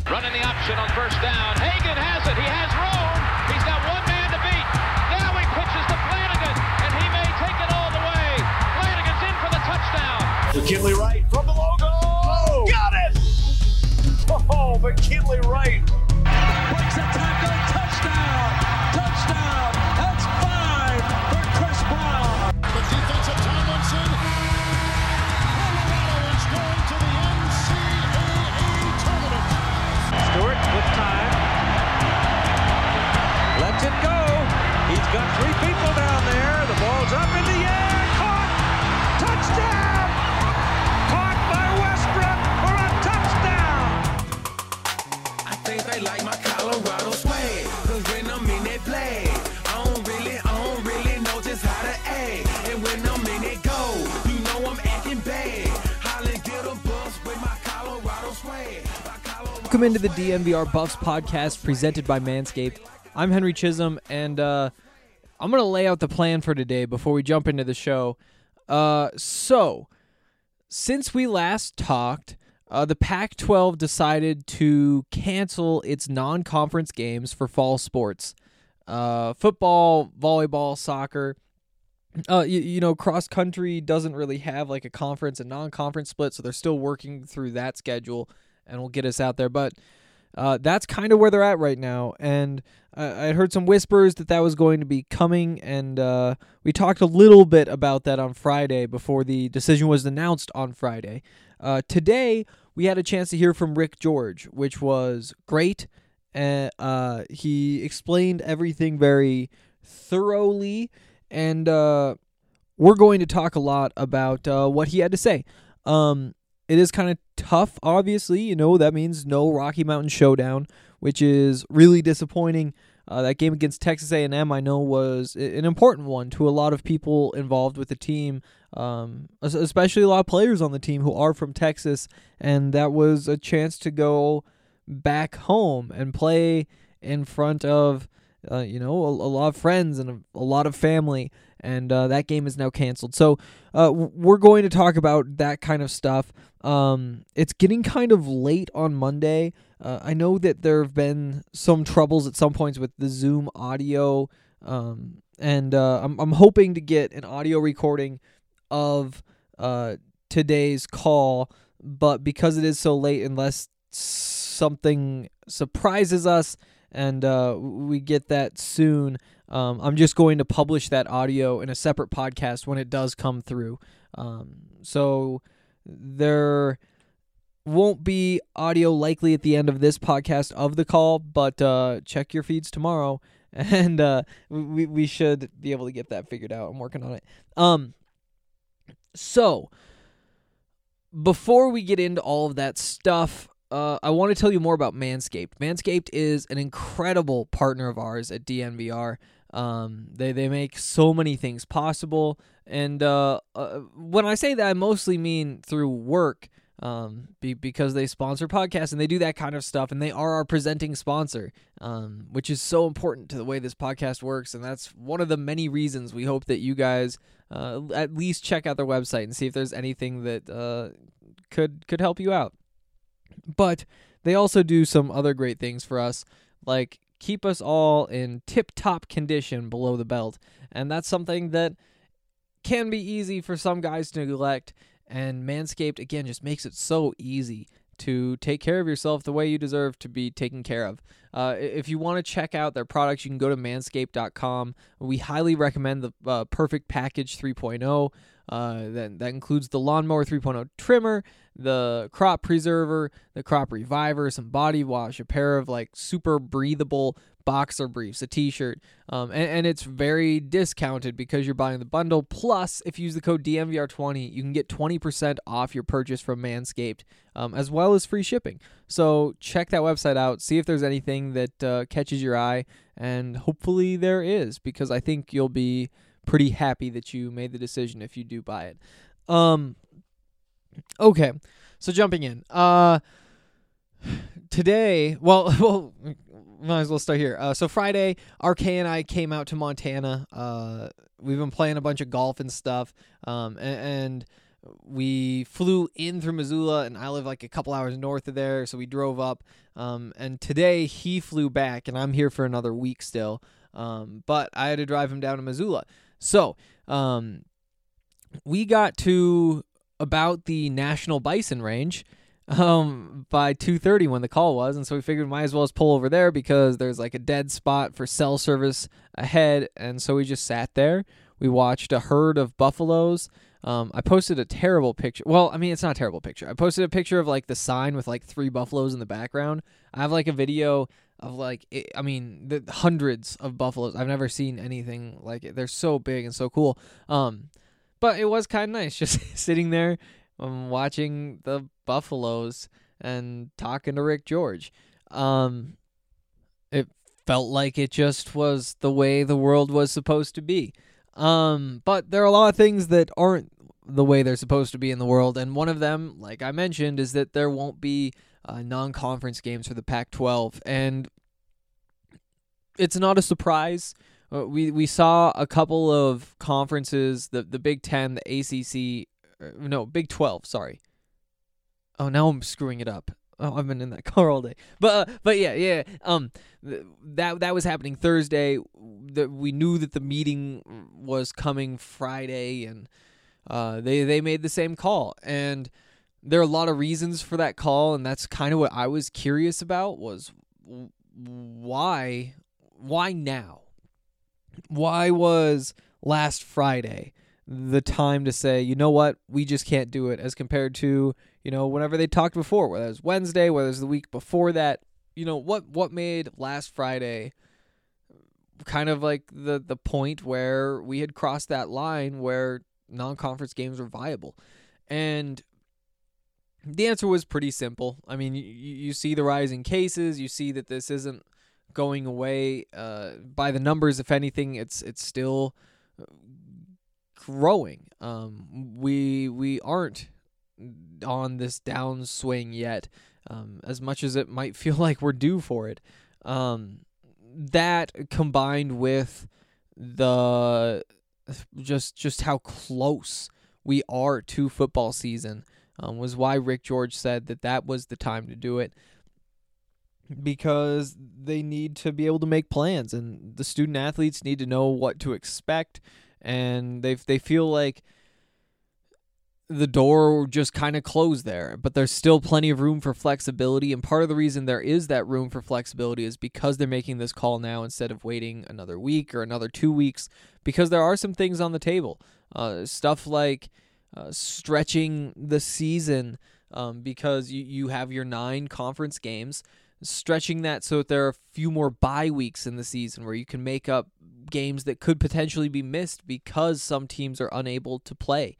Running the option on first down. Hagan has it. He has room. He's got one man to beat. Now he pitches to Flanagan, and he may take it all the way. Flanagan's in for the touchdown. McKinley Wright from the logo. Oh, got it! Oh, McKinley Wright. Breaks a tackle. Touchdown. Touchdown. That's 5 for Chris Brown. The defensive Tomlinson. Colorado is going to the NCAA tournament. Stewart with time. Lets it go. He's got 3 people down there. The ball's up in the air. Caught. Touchdown. Caught by Westbrook for a touchdown. I think they like my Colorado swag. Cause when I'm in that play, I don't really know just how to act. And when I'm in it go, you know I'm acting bad. Holland get a bus with my Colorado swag. Welcome into the DNVR Buffs podcast presented by Manscaped. I'm Henry Chisholm, and I'm going to lay out the plan for today before we jump into the show. So, since we last talked, the Pac-12 decided to cancel its non-conference games for fall sports. Football, volleyball, soccer. You know, cross-country doesn't really have like a conference and non-conference split, so they're still working through that schedule, and will get us out there. But that's kind of where they're at right now, and I heard some whispers that was going to be coming, and we talked a little bit about that on Friday before the decision was announced on Friday. Today, we had a chance to hear from Rick George, which was great. He explained everything very thoroughly, and we're going to talk a lot about what he had to say. It is kind of tough, obviously. You know, that means no Rocky Mountain Showdown, which is really disappointing. That game against Texas A&M, I know, was an important one to a lot of people involved with the team, especially a lot of players on the team who are from Texas, and that was a chance to go back home and play in front of, a lot of friends and a lot of family, and that game is now canceled. So we're going to talk about that kind of stuff. It's getting kind of late on Monday. I know that there have been some troubles at some points with the Zoom audio, and I'm hoping to get an audio recording of today's call, but because it is so late, unless something surprises us and we get that soon, I'm just going to publish that audio in a separate podcast when it does come through. So there won't be audio likely at the end of this podcast of the call, but check your feeds tomorrow, and we should be able to get that figured out. I'm working on it. So before we get into all of that stuff, I want to tell you more about Manscaped. Manscaped is an incredible partner of ours at DNVR. They make so many things possible, and when I say that, I mostly mean through work, because they sponsor podcasts and they do that kind of stuff, and they are our presenting sponsor, which is so important to the way this podcast works, and that's one of the many reasons we hope that you guys at least check out their website and see if there's anything that could help you out. But they also do some other great things for us, like keep us all in tip-top condition below the belt. And that's something that can be easy for some guys to neglect. And Manscaped, again, just makes it so easy to take care of yourself the way you deserve to be taken care of. If you want to check out their products, you can go to manscaped.com. We highly recommend the Perfect Package 3.0. That includes the Lawnmower 3.0 trimmer, the Crop Preserver, the Crop Reviver, some body wash, a pair of like super breathable boxer briefs, a t-shirt, and it's very discounted because you're buying the bundle. Plus, if you use the code DNVR20, you can get 20% off your purchase from Manscaped, as well as free shipping. So check that website out, see if there's anything that catches your eye, and hopefully there is, because I think you'll be pretty happy that you made the decision if you do buy it. Okay, so jumping in. Today, well, might as well start here. So Friday, RK and I came out to Montana. We've been playing a bunch of golf and stuff, and we flew in through Missoula, and I live like a couple hours north of there, so we drove up. And today he flew back, and I'm here for another week still. But I had to drive him down to Missoula. So we got to about the National Bison Range by 2:30 when the call was, and so we figured we might as well just pull over there because there's like a dead spot for cell service ahead, and so we just sat there. We watched a herd of buffaloes. I posted a terrible picture. Well, I mean, it's not a terrible picture. I posted a picture of like the sign with like 3 buffaloes in the background. I have like a video of like, the hundreds of buffaloes. I've never seen anything like it. They're so big and so cool. But it was kind of nice just sitting there watching the buffaloes and talking to Rick George. It felt like it just was the way the world was supposed to be. But there are a lot of things that aren't the way they're supposed to be in the world, and one of them, like I mentioned, is that there won't be non-conference games for the Pac-12, and it's not a surprise. We saw a couple of conferences, the Big Ten, the ACC, Big 12, sorry. Oh, now I'm screwing it up. Oh, I've been in that car all day. But yeah. That was happening Thursday. We knew that the meeting was coming Friday, and they made the same call. And there are a lot of reasons for that call, and that's kind of what I was curious about was why now? Why was last Friday the time to say, you know what, we just can't do it, as compared to, whenever they talked before, whether it was Wednesday, whether it was the week before that, what made last Friday kind of like the point where we had crossed that line where non-conference games were viable? And the answer was pretty simple. I mean, you see the rising cases, you see that this isn't going away by the numbers. If anything, it's still growing. We aren't on this downswing yet, as much as it might feel like we're due for it. That combined with the just how close we are to football season was why Rick George said that was the time to do it, because they need to be able to make plans, and the student athletes need to know what to expect, and they feel like the door just kind of closed there, but there's still plenty of room for flexibility, and part of the reason there is that room for flexibility is because they're making this call now instead of waiting another week or another 2 weeks, because there are some things on the table. Stuff like stretching the season, because you have your 9 conference games, stretching that so that there are a few more bye weeks in the season where you can make up games that could potentially be missed because some teams are unable to play.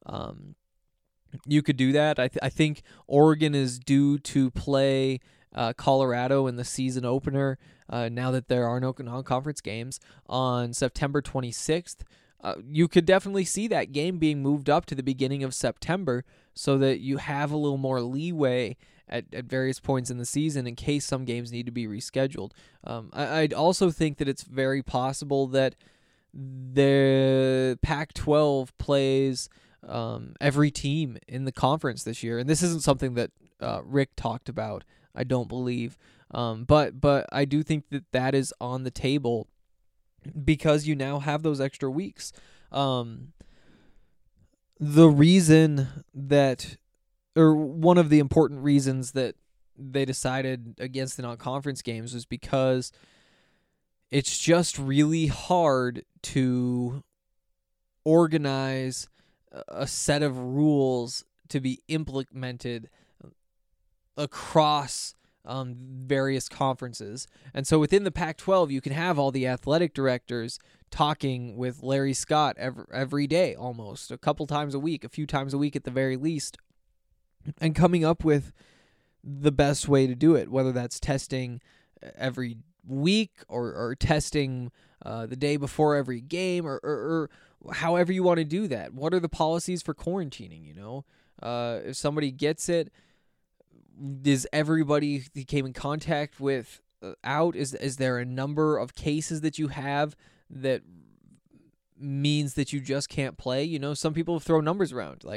You could do that. I think Oregon is due to play Colorado in the season opener, now that there are no non-conference games, on September 26th. You could definitely see that game being moved up to the beginning of September so that you have a little more leeway at various points in the season in case some games need to be rescheduled. I'd also think that it's very possible that the Pac-12 plays every team in the conference this year, and this isn't something that Rick talked about, I don't believe, but I do think that is on the table because you now have those extra weeks. The reason that, or one of the important reasons that they decided against the non-conference games was because it's just really hard to organize a set of rules to be implemented across various conferences. And so within the Pac-12, you can have all the athletic directors talking with Larry Scott every day, almost a couple times a week, a few times a week at the very least, and coming up with the best way to do it, whether that's testing every week or testing the day before every game, or however you want to do that. What are the policies for quarantining? If somebody gets it, is everybody he came in contact with out? Is there a number of cases that you have that means that you just can't play? Some people throw numbers around. Like,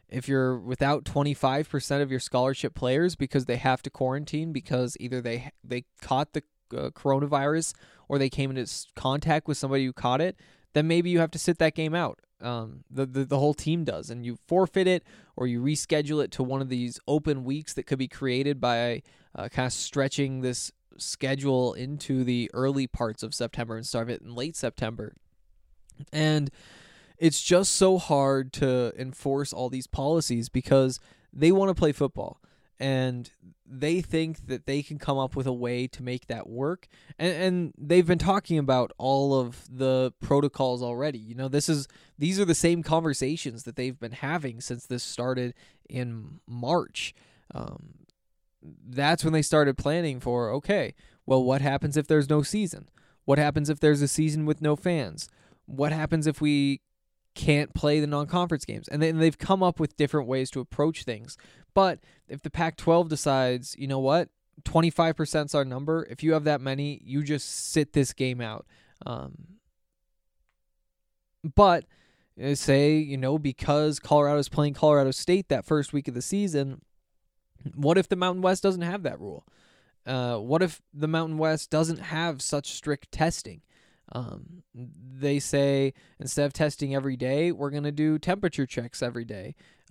if you're without 25% of your scholarship players because they have to quarantine because either they caught the coronavirus or they came into contact with somebody who caught it, then maybe you have to sit that game out. The whole team does, and you forfeit it or you reschedule it to one of these open weeks that could be created by kind of stretching this schedule into the early parts of September and start it in late September. And it's just so hard to enforce all these policies because they want to play football and they think that they can come up with a way to make that work. And they've been talking about all of the protocols already. You know, these are the same conversations that they've been having since this started in March. That's when they started planning for, okay, well, what happens if there's no season? What happens if there's a season with no fans? What happens if we can't play the non-conference games? And then they've come up with different ways to approach things. But if the Pac-12 decides, you know what, 25% is our number, if you have that many, you just sit this game out. But say, you know, because Colorado's playing Colorado State that first week of the season, what if the Mountain West doesn't have that rule? What if the Mountain West doesn't have such strict testing? They say instead of testing every day, we're going to do temperature checks every day.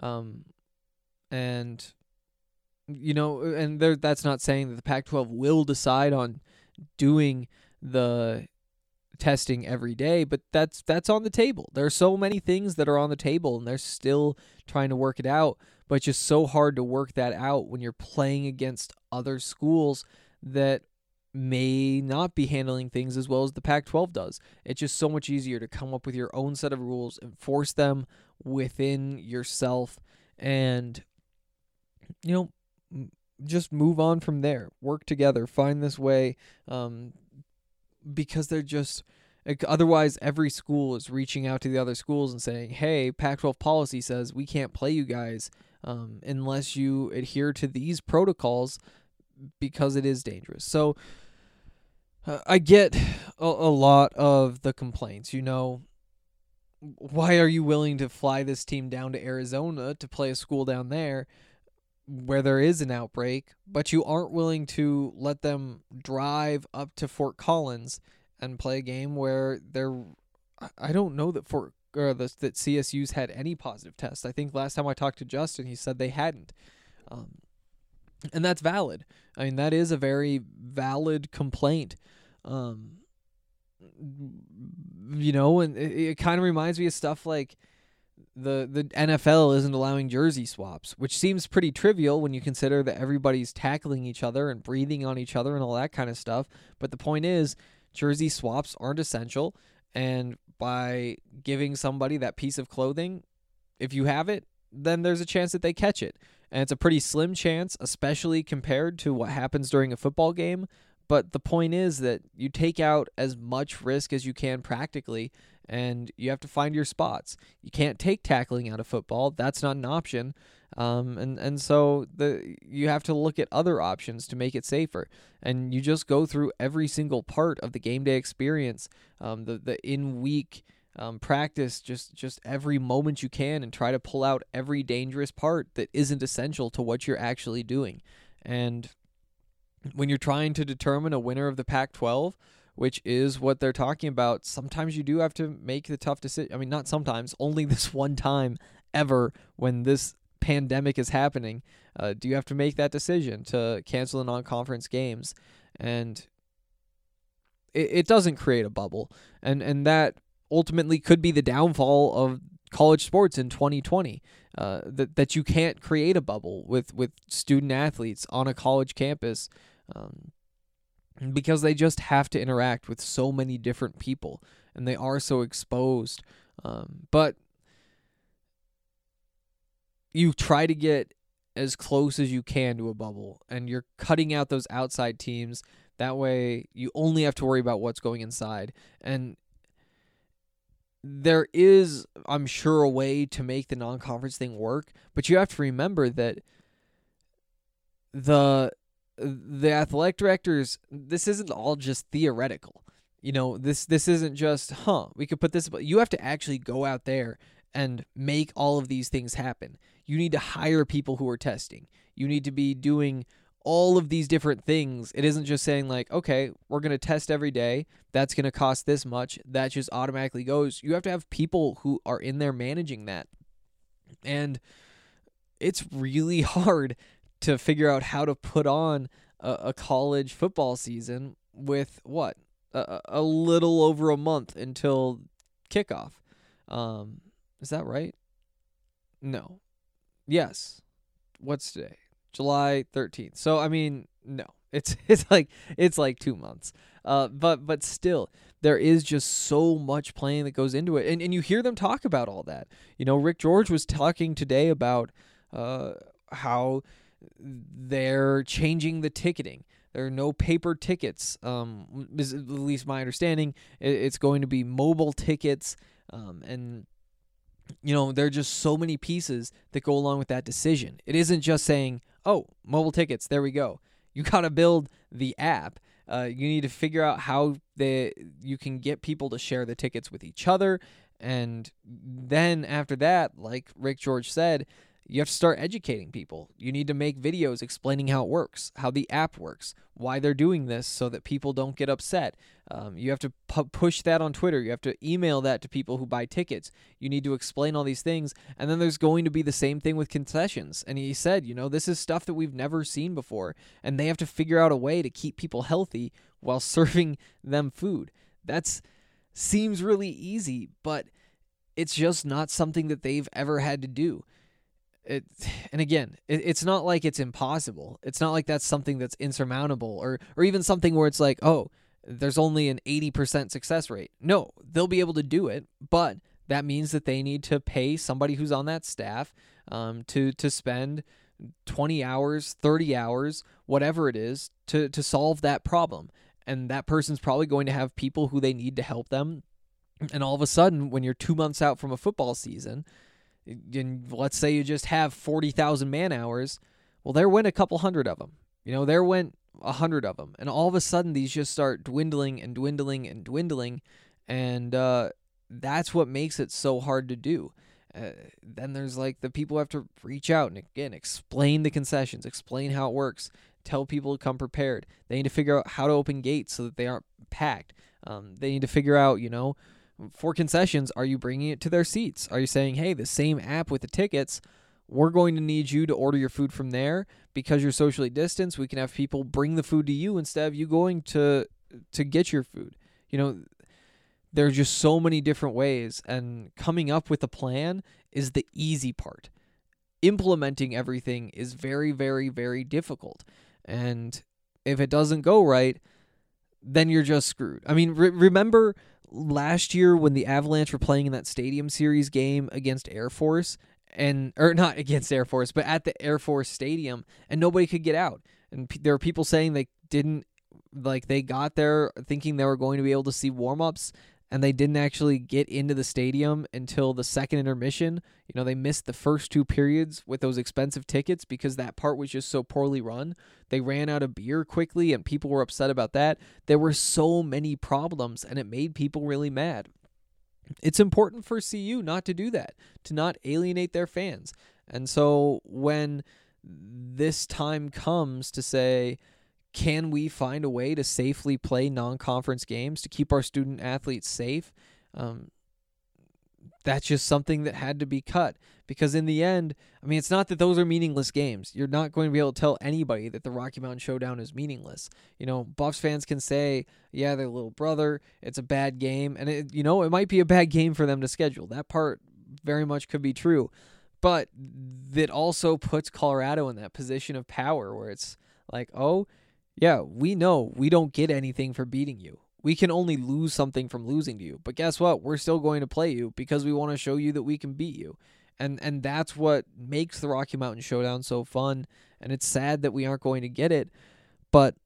And, you know, and that's not saying that the Pac-12 will decide on doing the testing every day, but that's on the table. There are so many things that are on the table, and they're still trying to work it out, but it's just so hard to work that out when you're playing against other schools that may not be handling things as well as the Pac-12 does. It's just so much easier to come up with your own set of rules, enforce them within yourself, and, you know, just move on from there. Work together. Find this way, because they're just... Otherwise, every school is reaching out to the other schools and saying, hey, Pac-12 policy says we can't play you guys unless you adhere to these protocols because it is dangerous. So I get a lot of the complaints. You know, why are you willing to fly this team down to Arizona to play a school down there where there is an outbreak, but you aren't willing to let them drive up to Fort Collins and play a game where I don't know that that CSU's had any positive tests. I think last time I talked to Justin, he said they hadn't. And that's valid. I mean, that is a very valid complaint. You know, and it kind of reminds me of stuff like the NFL isn't allowing jersey swaps, which seems pretty trivial when you consider that everybody's tackling each other and breathing on each other and all that kind of stuff. But the point is, jersey swaps aren't essential, and by giving somebody that piece of clothing, if you have it, then there's a chance that they catch it. And it's a pretty slim chance, especially compared to what happens during a football game. But the point is that you take out as much risk as you can practically, and you have to find your spots. You can't take tackling out of football. That's not an option. And so you have to look at other options to make it safer. And you just go through every single part of the game day experience, the in-week practice, just every moment you can, and try to pull out every dangerous part that isn't essential to what you're actually doing. And when you're trying to determine a winner of the Pac-12, which is what they're talking about, sometimes you do have to make the tough decision. I mean, not sometimes, only this one time ever when this pandemic is happening, do you have to make that decision to cancel the non-conference games. And it doesn't create a bubble. And that ultimately could be the downfall of college sports in 2020, that you can't create a bubble with student athletes on a college campus, because they just have to interact with so many different people, and they are so exposed. But you try to get as close as you can to a bubble, and you're cutting out those outside teams. That way you only have to worry about what's going inside. And there is, I'm sure, a way to make the non-conference thing work, but you have to remember that the athletic directors, this isn't all just theoretical. You know, this isn't just, we could put this, but you have to actually go out there and make all of these things happen. You need to hire people who are testing. You need to be doing all of these different things. It isn't just saying like, okay, we're going to test every day. That's going to cost this much. That just automatically goes. You have to have people who are in there managing that. And it's really hard to figure out how to put on a college football season with what? A little over a month until kickoff. Is that right? No. Yes. What's today? July 13th. So I mean, no. It's like 2 months. But still, there is just so much planning that goes into it. And you hear them talk about all that. Rick George was talking today about how they're changing the ticketing. There are no paper tickets. Is at least my understanding. It's going to be mobile tickets. And there are just so many pieces that go along with that decision. It isn't just saying, oh, mobile tickets, there we go. You got to build the app. You need to figure out how you can get people to share the tickets with each other. And then after that, like Rick George said, you have to start educating people. You need to make videos explaining how it works, how the app works, why they're doing this so that people don't get upset. You have to push that on Twitter. You have to email that to people who buy tickets. You need to explain all these things. And then there's going to be the same thing with concessions. And he said, this is stuff that we've never seen before. And they have to figure out a way to keep people healthy while serving them food. That seems really easy, but it's just not something that they've ever had to do. It's not like it's impossible. It's not like that's something that's insurmountable or even something where it's like, oh, there's only an 80% success rate. No, they'll be able to do it, but that means that they need to pay somebody who's on that staff to spend 20 hours, 30 hours, whatever it is, to solve that problem. And that person's probably going to have people who they need to help them. And all of a sudden, when you're 2 months out from a football season, and let's say you just have 40,000 man hours, well, there went a couple hundred of them. There went 100 of them. And all of a sudden, these just start dwindling and dwindling and dwindling. And that's what makes it so hard to do. Then there's like the people who have to reach out and, again, explain the concessions, explain how it works, tell people to come prepared. They need to figure out how to open gates so that they aren't packed. They need to figure out, for concessions, are you bringing it to their seats? Are you saying, hey, the same app with the tickets, we're going to need you to order your food from there because you're socially distanced. We can have people bring the food to you instead of you going to get your food. There's just so many different ways, and coming up with a plan is the easy part. Implementing everything is very, very, very difficult. And if it doesn't go right, then you're just screwed. I mean, remember last year when the Avalanche were playing in that Stadium Series game against Air Force, or not against Air Force, but at the Air Force Stadium, and nobody could get out. And there are people saying they got there thinking they were going to be able to see warm-ups, and they didn't actually get into the stadium until the second intermission. They missed the first 2 periods with those expensive tickets because that part was just so poorly run. They ran out of beer quickly, and people were upset about that. There were so many problems, and it made people really mad. It's important for CU not to do that, to not alienate their fans. And so when this time comes to say, can we find a way to safely play non-conference games to keep our student athletes safe? That's just something that had to be cut. Because in the end, I mean, it's not that those are meaningless games. You're not going to be able to tell anybody that the Rocky Mountain Showdown is meaningless. Buffs fans can say, yeah, their little brother, it's a bad game. And, it might be a bad game for them to schedule. That part very much could be true. But that also puts Colorado in that position of power where it's like, oh, yeah, we know we don't get anything for beating you. We can only lose something from losing to you. But guess what? We're still going to play you because we want to show you that we can beat you. And that's what makes the Rocky Mountain Showdown so fun. And it's sad that we aren't going to get it. But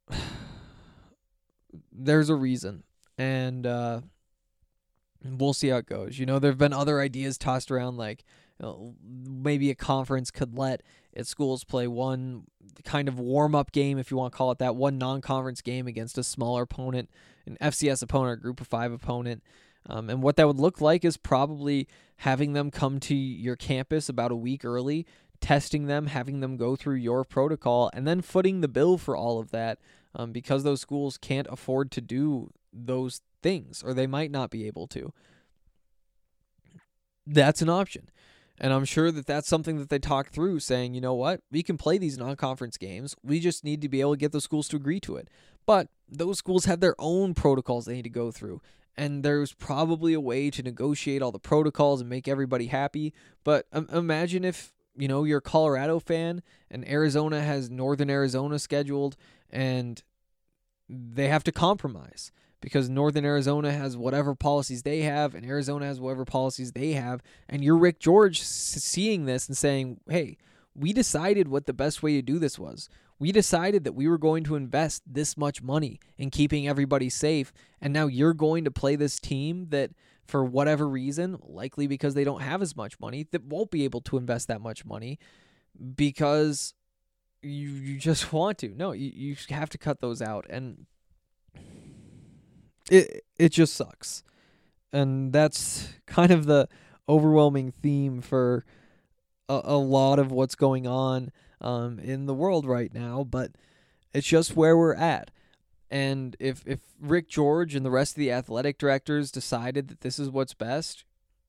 there's a reason. And we'll see how it goes. There have been other ideas tossed around like maybe a conference could let its schools play one kind of warm-up game, if you want to call it that, one non-conference game against a smaller opponent, an FCS opponent, a group of 5 opponent. And what that would look like is probably having them come to your campus about a week early, testing them, having them go through your protocol, and then footing the bill for all of that, because those schools can't afford to do those things, or they might not be able to. That's an option. And I'm sure that that's something that they talk through, saying, you know what, we can play these non-conference games. We just need to be able to get those schools to agree to it. But those schools have their own protocols they need to go through. And there's probably a way to negotiate all the protocols and make everybody happy. But imagine if, you're a Colorado fan and Arizona has Northern Arizona scheduled and they have to compromise because Northern Arizona has whatever policies they have and Arizona has whatever policies they have. And you're Rick George seeing this and saying, hey, we decided what the best way to do this was. We decided that we were going to invest this much money in keeping everybody safe, and now you're going to play this team that, for whatever reason, likely because they don't have as much money, that won't be able to invest that much money because you just want to. No, you have to cut those out, and it just sucks. And that's kind of the overwhelming theme for a lot of what's going on in the world right now, but it's just where we're at. And if Rick George and the rest of the athletic directors decided that this is what's best,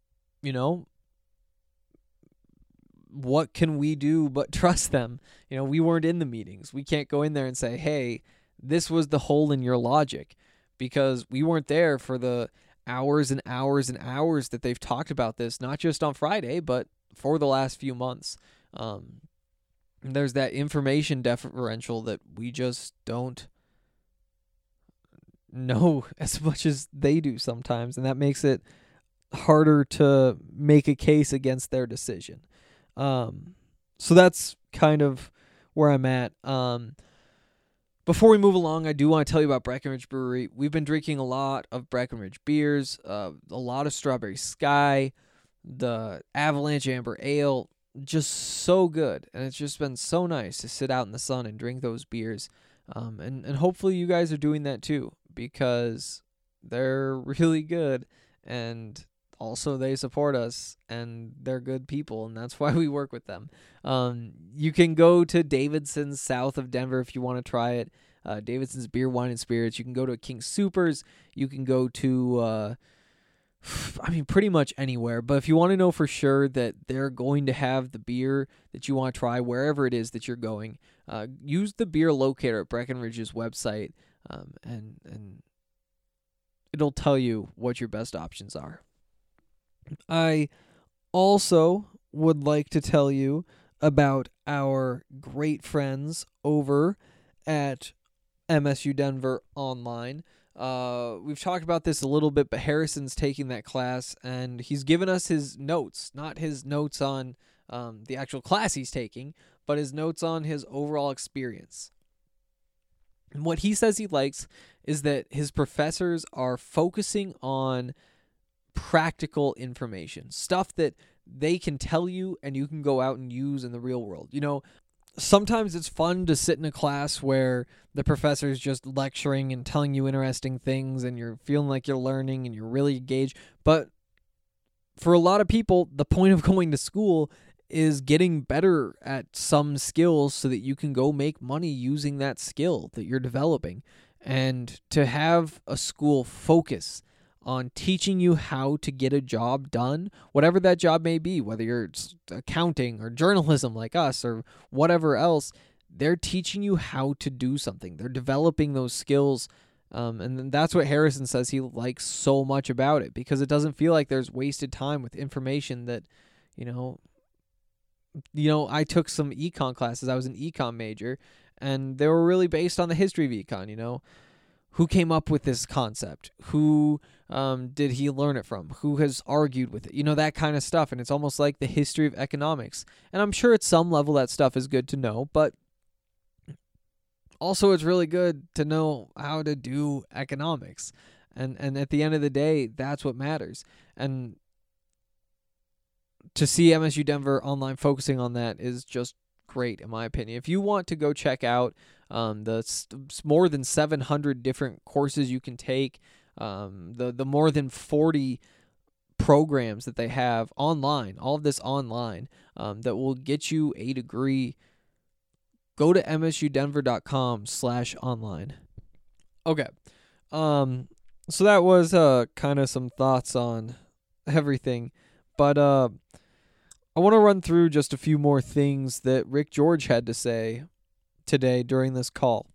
what can we do but trust them? We weren't in the meetings. We can't go in there and say, hey, this was the hole in your logic, because we weren't there for the hours and hours and hours that they've talked about this, not just on Friday, but for the last few months. There's that information differential that we just don't know as much as they do sometimes, and that makes it harder to make a case against their decision. So that's kind of where I'm at. Before we move along, I do want to tell you about Breckenridge Brewery. We've been drinking a lot of Breckenridge beers, a lot of Strawberry Sky, the Avalanche Amber Ale, just so good. And it's just been so nice to sit out in the sun and drink those beers. And hopefully you guys are doing that too, because they're really good, and also they support us, and they're good people, and that's why we work with them. You can go to Davidson's south of Denver if you want to try it. Davidson's Beer, Wine, and Spirits. You can go to King Soopers. You can go to, pretty much anywhere. But if you want to know for sure that they're going to have the beer that you want to try wherever it is that you're going, use the beer locator at Breckenridge's website, and it'll tell you what your best options are. I also would like to tell you about our great friends over at MSU Denver Online. We've talked about this a little bit, but Harrison's taking that class, and he's given us his notes, not his notes on the actual class he's taking, but his notes on his overall experience. And what he says he likes is that his professors are focusing on practical information, stuff that they can tell you and you can go out and use in the real world. Sometimes it's fun to sit in a class where the professor is just lecturing and telling you interesting things and you're feeling like you're learning and you're really engaged. But for a lot of people, the point of going to school is getting better at some skills so that you can go make money using that skill that you're developing. And to have a school focus on teaching you how to get a job done, whatever that job may be, whether you're accounting or journalism like us or whatever else, they're teaching you how to do something. They're developing those skills, and that's what Harrison says he likes so much about it, because it doesn't feel like there's wasted time with information that, I took some econ classes. I was an econ major, and they were really based on the history of econ, Who came up with this concept? Who did he learn it from? Who has argued with it? That kind of stuff. And it's almost like the history of economics. And I'm sure at some level that stuff is good to know, but also it's really good to know how to do economics. And at the end of the day, that's what matters. And to see MSU Denver Online focusing on that is just great, in my opinion. If you want to go check out the more than 700 different courses you can take, The more than 40 programs that they have online, all of this online, that will get you a degree. Go to msudenver.com/online. Okay. So that was kind of some thoughts on everything, but I want to run through just a few more things that Rick George had to say today during this call.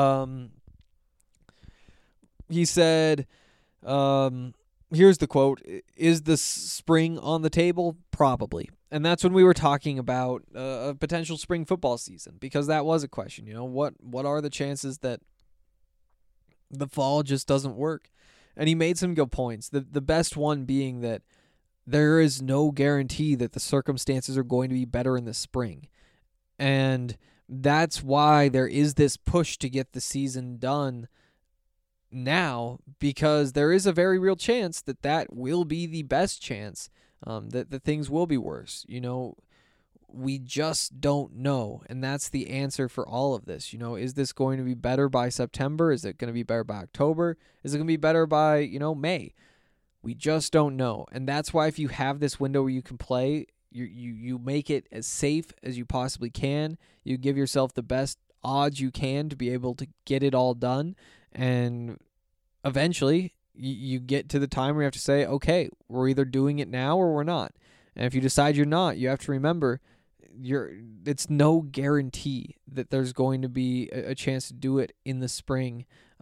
He said, here's the quote, "Is the spring on the table? Probably." And that's when we were talking about a potential spring football season, because that was a question. What are the chances that the fall just doesn't work? And he made some good points. The best one being that there is no guarantee that the circumstances are going to be better in the spring. And that's why there is this push to get the season done now, because there is a very real chance that will be the best chance, that things will be worse. We just don't know, and that's the answer for all of this. Is this going to be better by September? Is it going to be better by October? Is it going to be better by, May? We just don't know, and that's why if you have this window where you can play, you make it as safe as you possibly can. You give yourself the best odds you can to be able to get it all done, and eventually you get to the time where you have to say, okay, we're either doing it now or we're not. And if you decide you're not, you have to remember it's no guarantee that there's going to be a chance to do it in the spring,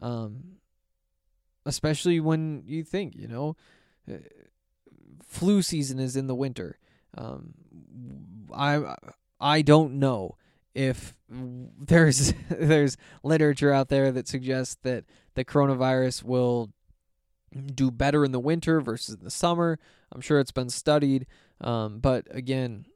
especially when you think, flu season is in the winter. I don't know if there's literature out there that suggests that the coronavirus will do better in the winter versus the summer. I'm sure it's been studied, but again,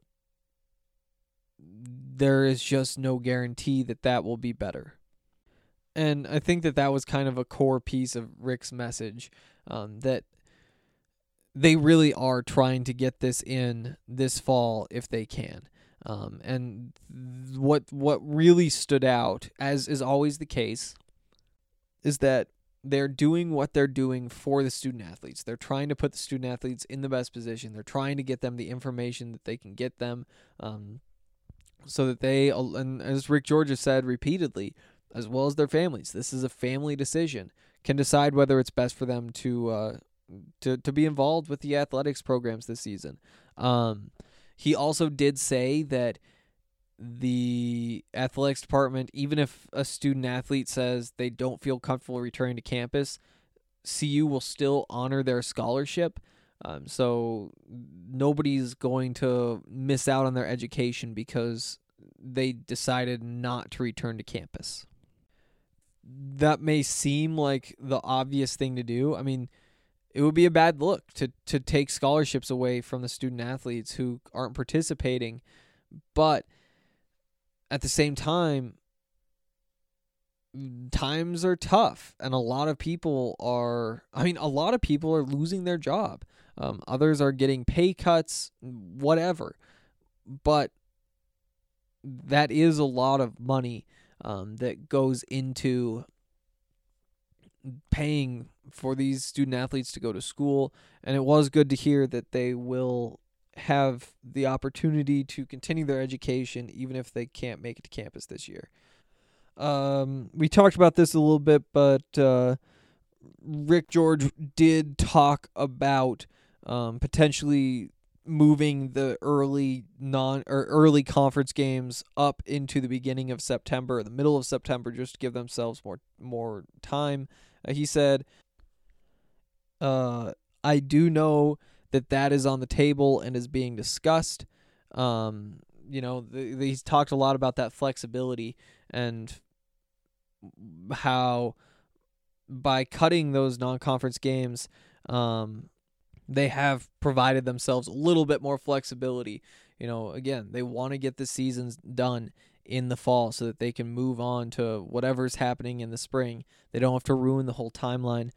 there is just no guarantee that will be better. And I think that was kind of a core piece of Rick's message, that they really are trying to get this in this fall if they can. And what really stood out, as is always the case, is that they're doing what they're doing for the student athletes. They're trying to put the student athletes in the best position. They're trying to get them the information that they can get them, so that they, and as Rick George has said repeatedly, as well as their families, this is a family decision, can decide whether it's best for them to be involved with the athletics programs this season. He also did say that the athletics department, even if a student athlete says they don't feel comfortable returning to campus, CU will still honor their scholarship. So nobody's going to miss out on their education because they decided not to return to campus. That may seem like the obvious thing to do. I mean, it would be a bad look to take scholarships away from the student athletes who aren't participating, but at the same time, times are tough, and a lot of people are losing their job. Others are getting pay cuts, whatever. But that is a lot of money that goes into paying for these student athletes to go to school. And it was good to hear that they will have the opportunity to continue their education even if they can't make it to campus this year. We talked about this a little bit, but Rick George did talk about potentially moving the early conference games up into the beginning of September, the middle of September, just to give themselves more time. He said, I do know that is on the table and is being discussed. He's talked a lot about that flexibility and how by cutting those non-conference games, they have provided themselves a little bit more flexibility. Again, they want to get the seasons done in the fall so that they can move on to whatever's happening in the spring. They don't have to ruin the whole timeline.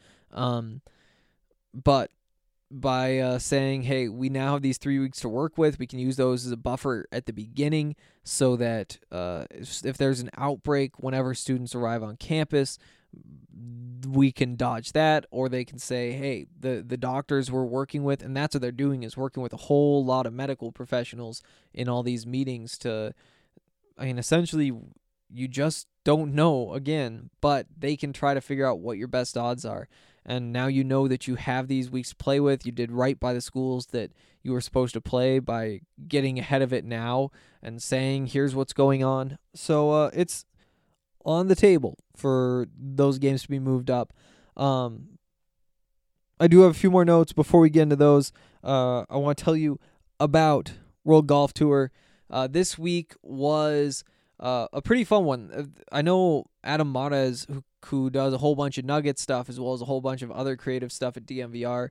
But by saying, hey, we now have these 3 weeks to work with, we can use those as a buffer at the beginning so that if there's an outbreak whenever students arrive on campus, we can dodge that, or they can say, hey, the doctors we're working with, and that's what they're doing, is working with a whole lot of medical professionals in all these meetings to, essentially, you just don't know, again, but they can try to figure out what your best odds are. And now you know that you have these weeks to play with. You did right by the schools that you were supposed to play by getting ahead of it now and saying, here's what's going on. So it's on the table for those games to be moved up. I do have a few more notes before we get into those. I want to tell you about World Golf Tour. This week was a pretty fun one. I know Adam Mares, who does a whole bunch of Nugget stuff as well as a whole bunch of other creative stuff at DMVR.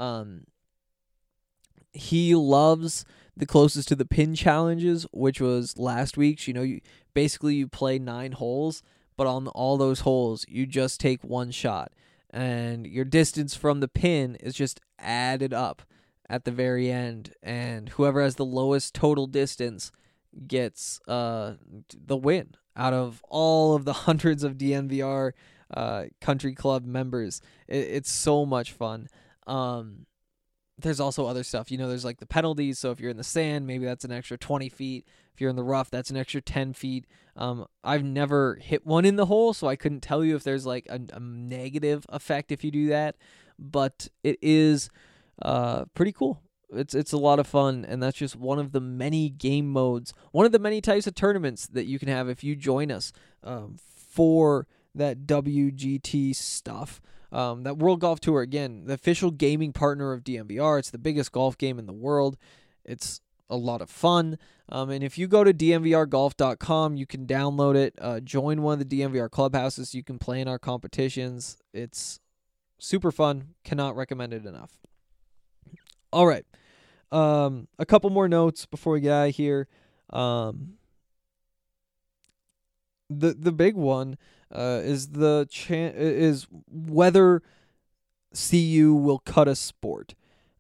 He loves the closest to the pin challenges, which was last week's. You play 9 holes, but on all those holes, you just take one shot. And your distance from the pin is just added up at the very end. And whoever has the lowest total distance gets the win out of all of the hundreds of DNVR country club members. It's so much fun. There's also other stuff. There's like the penalties. So if you're in the sand, maybe that's an extra 20 feet. If you're in the rough, that's an extra 10 feet. I've never hit one in the hole, so I couldn't tell you if there's like a negative effect if you do that. But it is pretty cool. It's a lot of fun, and that's just one of the many game modes, one of the many types of tournaments that you can have if you join us for that WGT stuff. That World Golf Tour, again, the official gaming partner of DMVR. It's the biggest golf game in the world. It's a lot of fun. And if you go to dmvrgolf.com, you can download it, join one of the DMVR clubhouses. You can play in our competitions. It's super fun. Cannot recommend it enough. All right. A couple more notes before we get out of here. The big one is whether CU will cut a sport.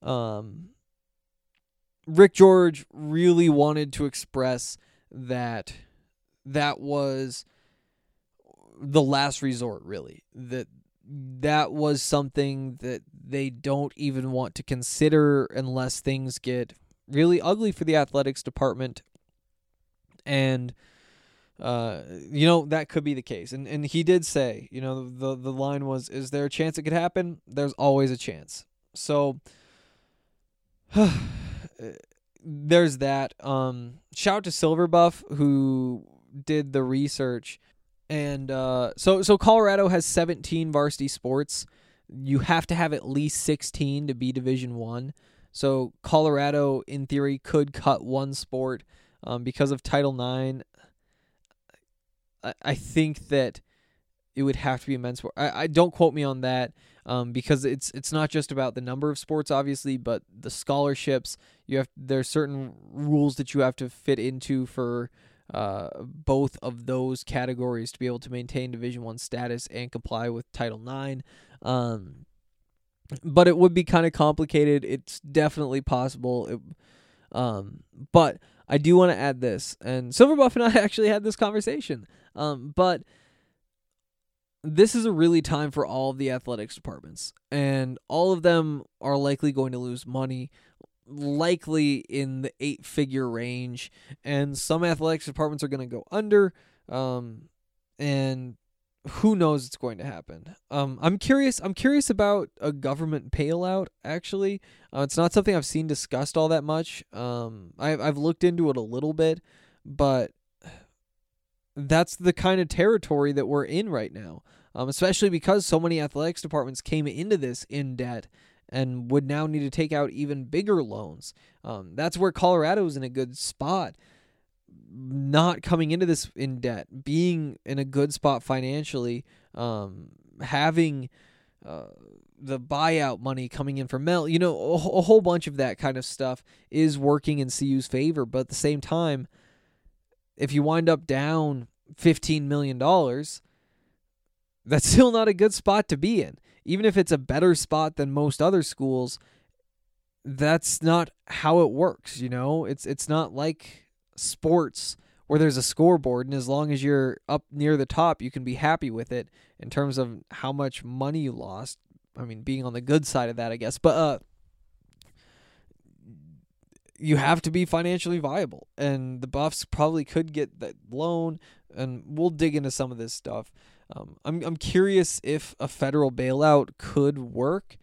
Rick George really wanted to express that was the last resort, really. That was something that they don't even want to consider unless things get really ugly for the athletics department. And, that could be the case. And he did say, the line was, is there a chance it could happen? There's always a chance. So, there's that. Shout out to Silverbuff, who did the research. And so Colorado has 17 varsity sports. You have to have at least 16 to be Division I. So Colorado, in theory, could cut one sport because of Title IX. I think that it would have to be a men's sport. I don't quote me on that because it's not just about the number of sports, obviously, but the scholarships. There's certain rules that you have to fit into for both of those categories to be able to maintain Division I status and comply with Title IX. But it would be kind of complicated. It's definitely possible. But I do want to add this, and Silverbuff and I actually had this conversation. But this is a really time for all of the athletics departments, and all of them are likely going to lose money, likely in the 8-figure range, and some athletics departments are going to go under, and who knows what's going to happen. I'm curious about a government bailout, actually. It's not something I've seen discussed all that much. I've looked into it a little bit, but that's the kind of territory that we're in right now, especially because so many athletics departments came into this in debt and would now need to take out even bigger loans. That's where Colorado's in a good spot, not coming into this in debt, being in a good spot financially, having the buyout money coming in from Mel, a whole bunch of that kind of stuff is working in CU's favor. But at the same time, if you wind up down $15 million, that's still not a good spot to be in. Even if it's a better spot than most other schools, that's not how it works, It's not like sports where there's a scoreboard, and as long as you're up near the top, you can be happy with it in terms of how much money you lost. I mean, being on the good side of that, I guess. But you have to be financially viable, and the Buffs probably could get that loan, and we'll dig into some of this stuff. I'm curious if a federal bailout could work.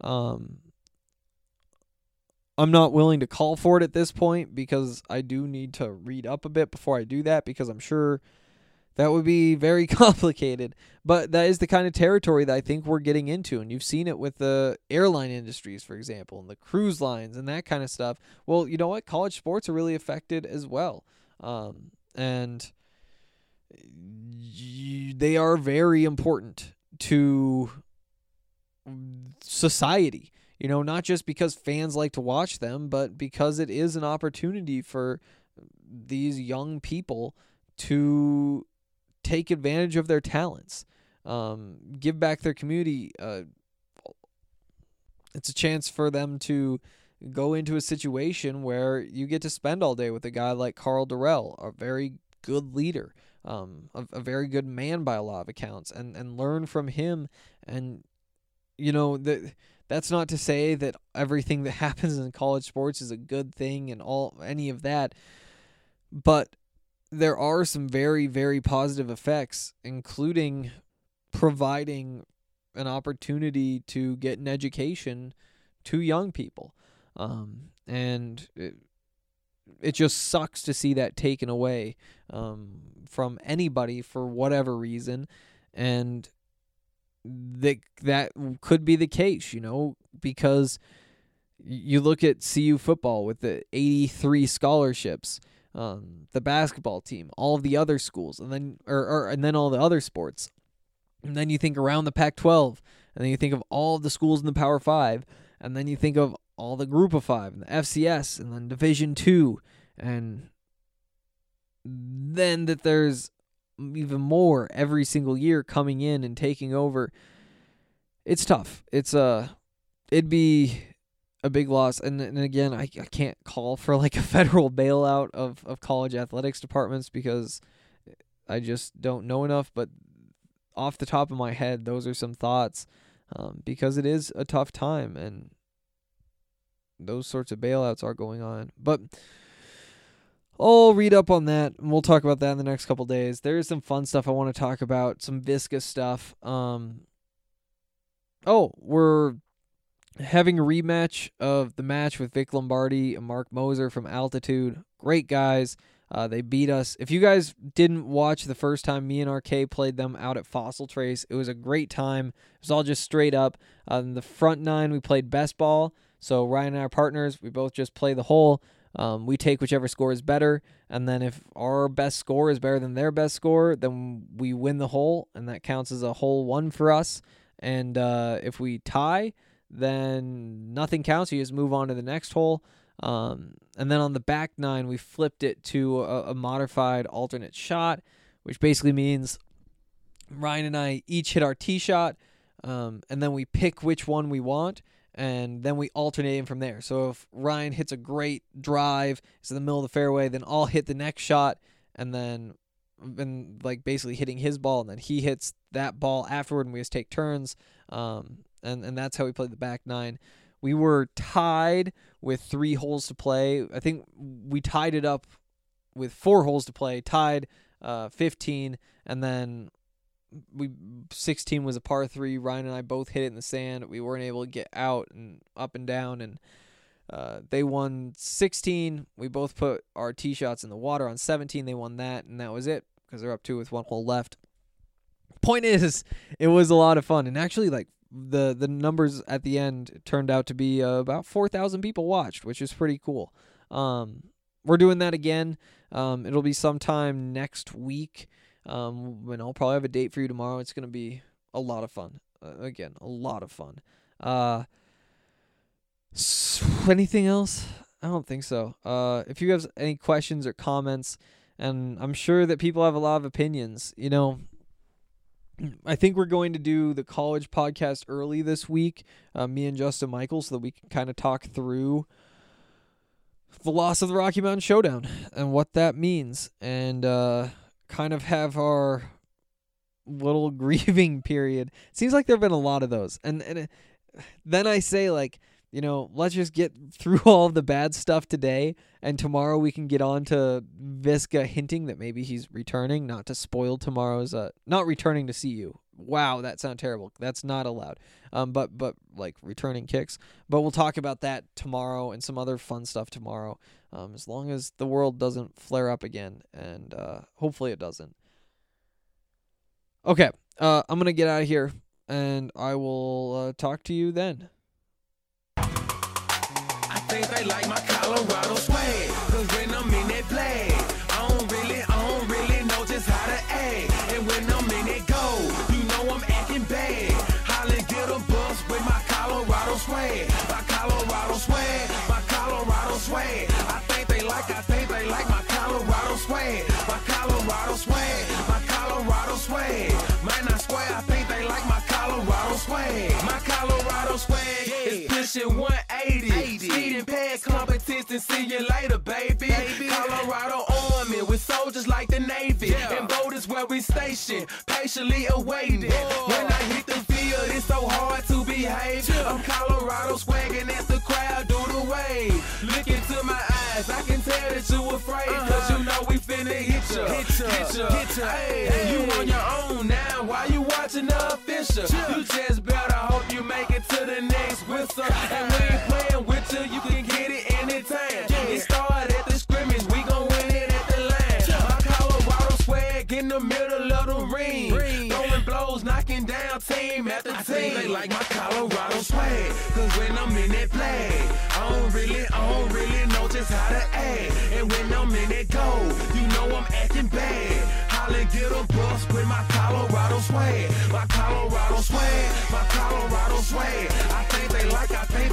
I'm not willing to call for it at this point because I do need to read up a bit before I do that, because I'm sure that would be very complicated. But that is the kind of territory that I think we're getting into, and you've seen it with the airline industries, for example, and the cruise lines and that kind of stuff. Well, you know what? College sports are really affected as well. And they are very important to society. You know, not just because fans like to watch them, but because it is an opportunity for these young people to take advantage of their talents, give back their community. It's a chance for them to go into a situation where you get to spend all day with a guy like Carl Durrell, a very good leader, a very good man by a lot of accounts, and learn from him. And, you know, that's not to say that everything that happens in college sports is a good thing and any of that, but there are some very, very positive effects, including providing an opportunity to get an education to young people. And it just sucks to see that taken away from anybody for whatever reason. And that could be the case, you know, because you look at CU football with the 83 scholarships, the basketball team, all of the other schools, and then and then all the other sports. And then you think around the Pac-12, and then you think of all of the schools in the Power 5, and then you think of all the Group of 5 and the FCS, and then Division 2, and then that there's even more every single year coming in and taking over. It's tough. It'd be a big loss. And again, I can't call for like a federal bailout of college athletics departments because I just don't know enough. But off the top of my head, those are some thoughts, because it is a tough time and those sorts of bailouts are going on. But I'll read up on that, and we'll talk about that in the next couple days. There is some fun stuff I want to talk about, some viscous stuff. We're having a rematch of the match with Vic Lombardi and Mark Moser from Altitude. Great guys. They beat us. If you guys didn't watch the first time me and RK played them out at Fossil Trace, it was a great time. It was all just straight up. In the front nine, we played best ball. So Ryan and I are partners. We both just play the hole. We take whichever score is better, and then if our best score is better than their best score, then we win the hole, and that counts as a hole one for us. And if we tie, then nothing counts. You just move on to the next hole. And then on the back nine, we flipped it to a modified alternate shot, which basically means Ryan and I each hit our tee shot, and then we pick which one we want. And then we alternate in from there. So if Ryan hits a great drive, it's in the middle of the fairway, then I'll hit the next shot, and then like basically hitting his ball, and then he hits that ball afterward, and we just take turns. And that's how we played the back nine. We were tied with 3 holes to play. I think we tied it up with 4 holes to play, tied 15, and then 16 was a par 3. Ryan and I both hit it in the sand. We weren't able to get out and up and down, and they won 16. We both put our tee shots in the water on 17. They won that, and that was it because they're up 2 with 1 hole left. Point is, it was a lot of fun, and actually, like the numbers at the end turned out to be about 4,000 people watched, which is pretty cool. We're doing that again. It'll be sometime next week. And I'll probably have a date for you tomorrow. It's going to be a lot of fun. Again, a lot of fun. Anything else? I don't think so. If you have any questions or comments, and I'm sure that people have a lot of opinions, you know, I think we're going to do the college podcast early this week, me and Justin Michael, so that we can kind of talk through the loss of the Rocky Mountain Showdown and what that means, and kind of have our little grieving period. It seems like there have been a lot of those. And then I say, like, you know, let's just get through all of the bad stuff today, and tomorrow we can get on to Visca hinting that maybe he's returning, not to spoil tomorrow's, not returning to see you. Wow, that sounds terrible. That's not allowed. But like returning kicks. But we'll talk about that tomorrow and some other fun stuff tomorrow, as long as the world doesn't flare up again, and hopefully it doesn't. Okay, I'm going to get out of here, and I will talk to you then. I think they like my Colorado swag, cause when I'm in that flag, I don't really know just how to act. And when I'm in that goal, you know I'm acting bad. Holla, get a bus with my Colorado swag. My Colorado swag, my Colorado swag. I think they like my Colorado swag. My Colorado swag, my Colorado swag. Man, I swear, I think they like my Colorado swag. My Colorado swag is pushing 180. Speeding past competition, see you later, baby. Colorado Army with soldiers like the Navy. And boat is where we station, patiently awaiting. When I hit the field, it's so hard to behave. I'm Colorado swagging as the crowd do the wave. Look into my eyes, I can tell that you afraid. Cause you know we finna hit ya. Hey, you on your own now, why you watching the official? You just better hope you make it to the next whistle. And we ain't playing with you can get it anytime. It started at the scrimmage, we gon' win it at the line. My Colorado swag in the middle of the ring. Throwing blows, knocking down team after team. I think they like my Colorado swag, cause when I'm in that flag, I don't really know just how to act. And when I'm in that goal, you know I'm acting bad. Holla, get a bus with my Colorado swag. My Colorado swag, my Colorado swag. I think they like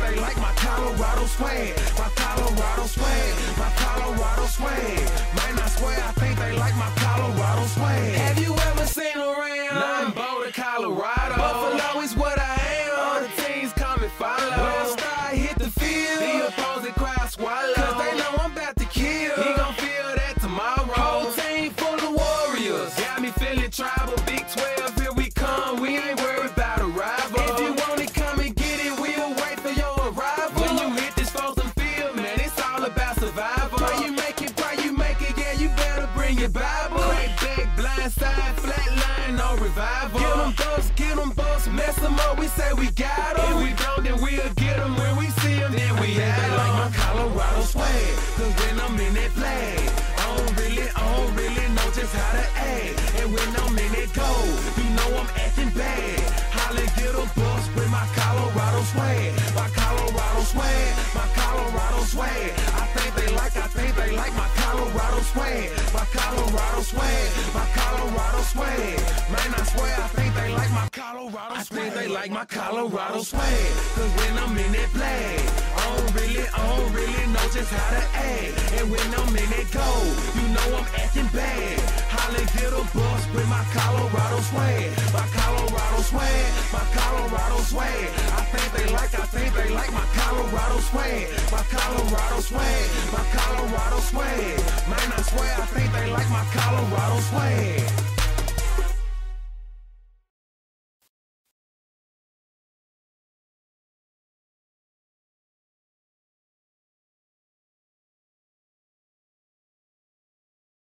my Colorado swag. My Colorado swag, my Colorado swag. Man, I swear, I think they like my Colorado swag. Have you ever seen around? Nothing Boulder, Colorado. Buffalo is what I am. All the teams come and follow. When I start hit the field, the opposing crowd swallow. Cause they know I'm about to kill. He gon' feel that tomorrow. Whole team full of warriors. Got me feeling tribal. Big 12, here we come. We ain't worried about a rival. If you want it, come and get it. We'll wait for your arrival. When you hit this frozen field, man, it's all about survival. Pray you make it, yeah, you better bring your Bible. Crack back, blind side, flat line, no revival. Get them bucks, mess them up, we say we got them. If we don't, then we'll get them. When we see them, then we have them. They like my Colorado swag, cause when I'm in that flag, I don't really know just how to act. And when I'm in that goal, you know I'm acting bad. Holla, get a bus with my Colorado swag. My Colorado swag, my Colorado swag. I think they like my Colorado swag. My Colorado swag, my Colorado swag. Man, I swear, I think they like my Colorado swag. I think they like my Colorado swag, cause when I'm in that flag, I don't really know just how to act. And when I'm in that goal, you know I'm acting bad. Holla, get a bus with my Colorado swag. My Colorado swag, my Colorado swag. I think they like my Colorado swag. My Colorado swag, my Colorado swag. Man, I swear, I think they like my Colorado swag.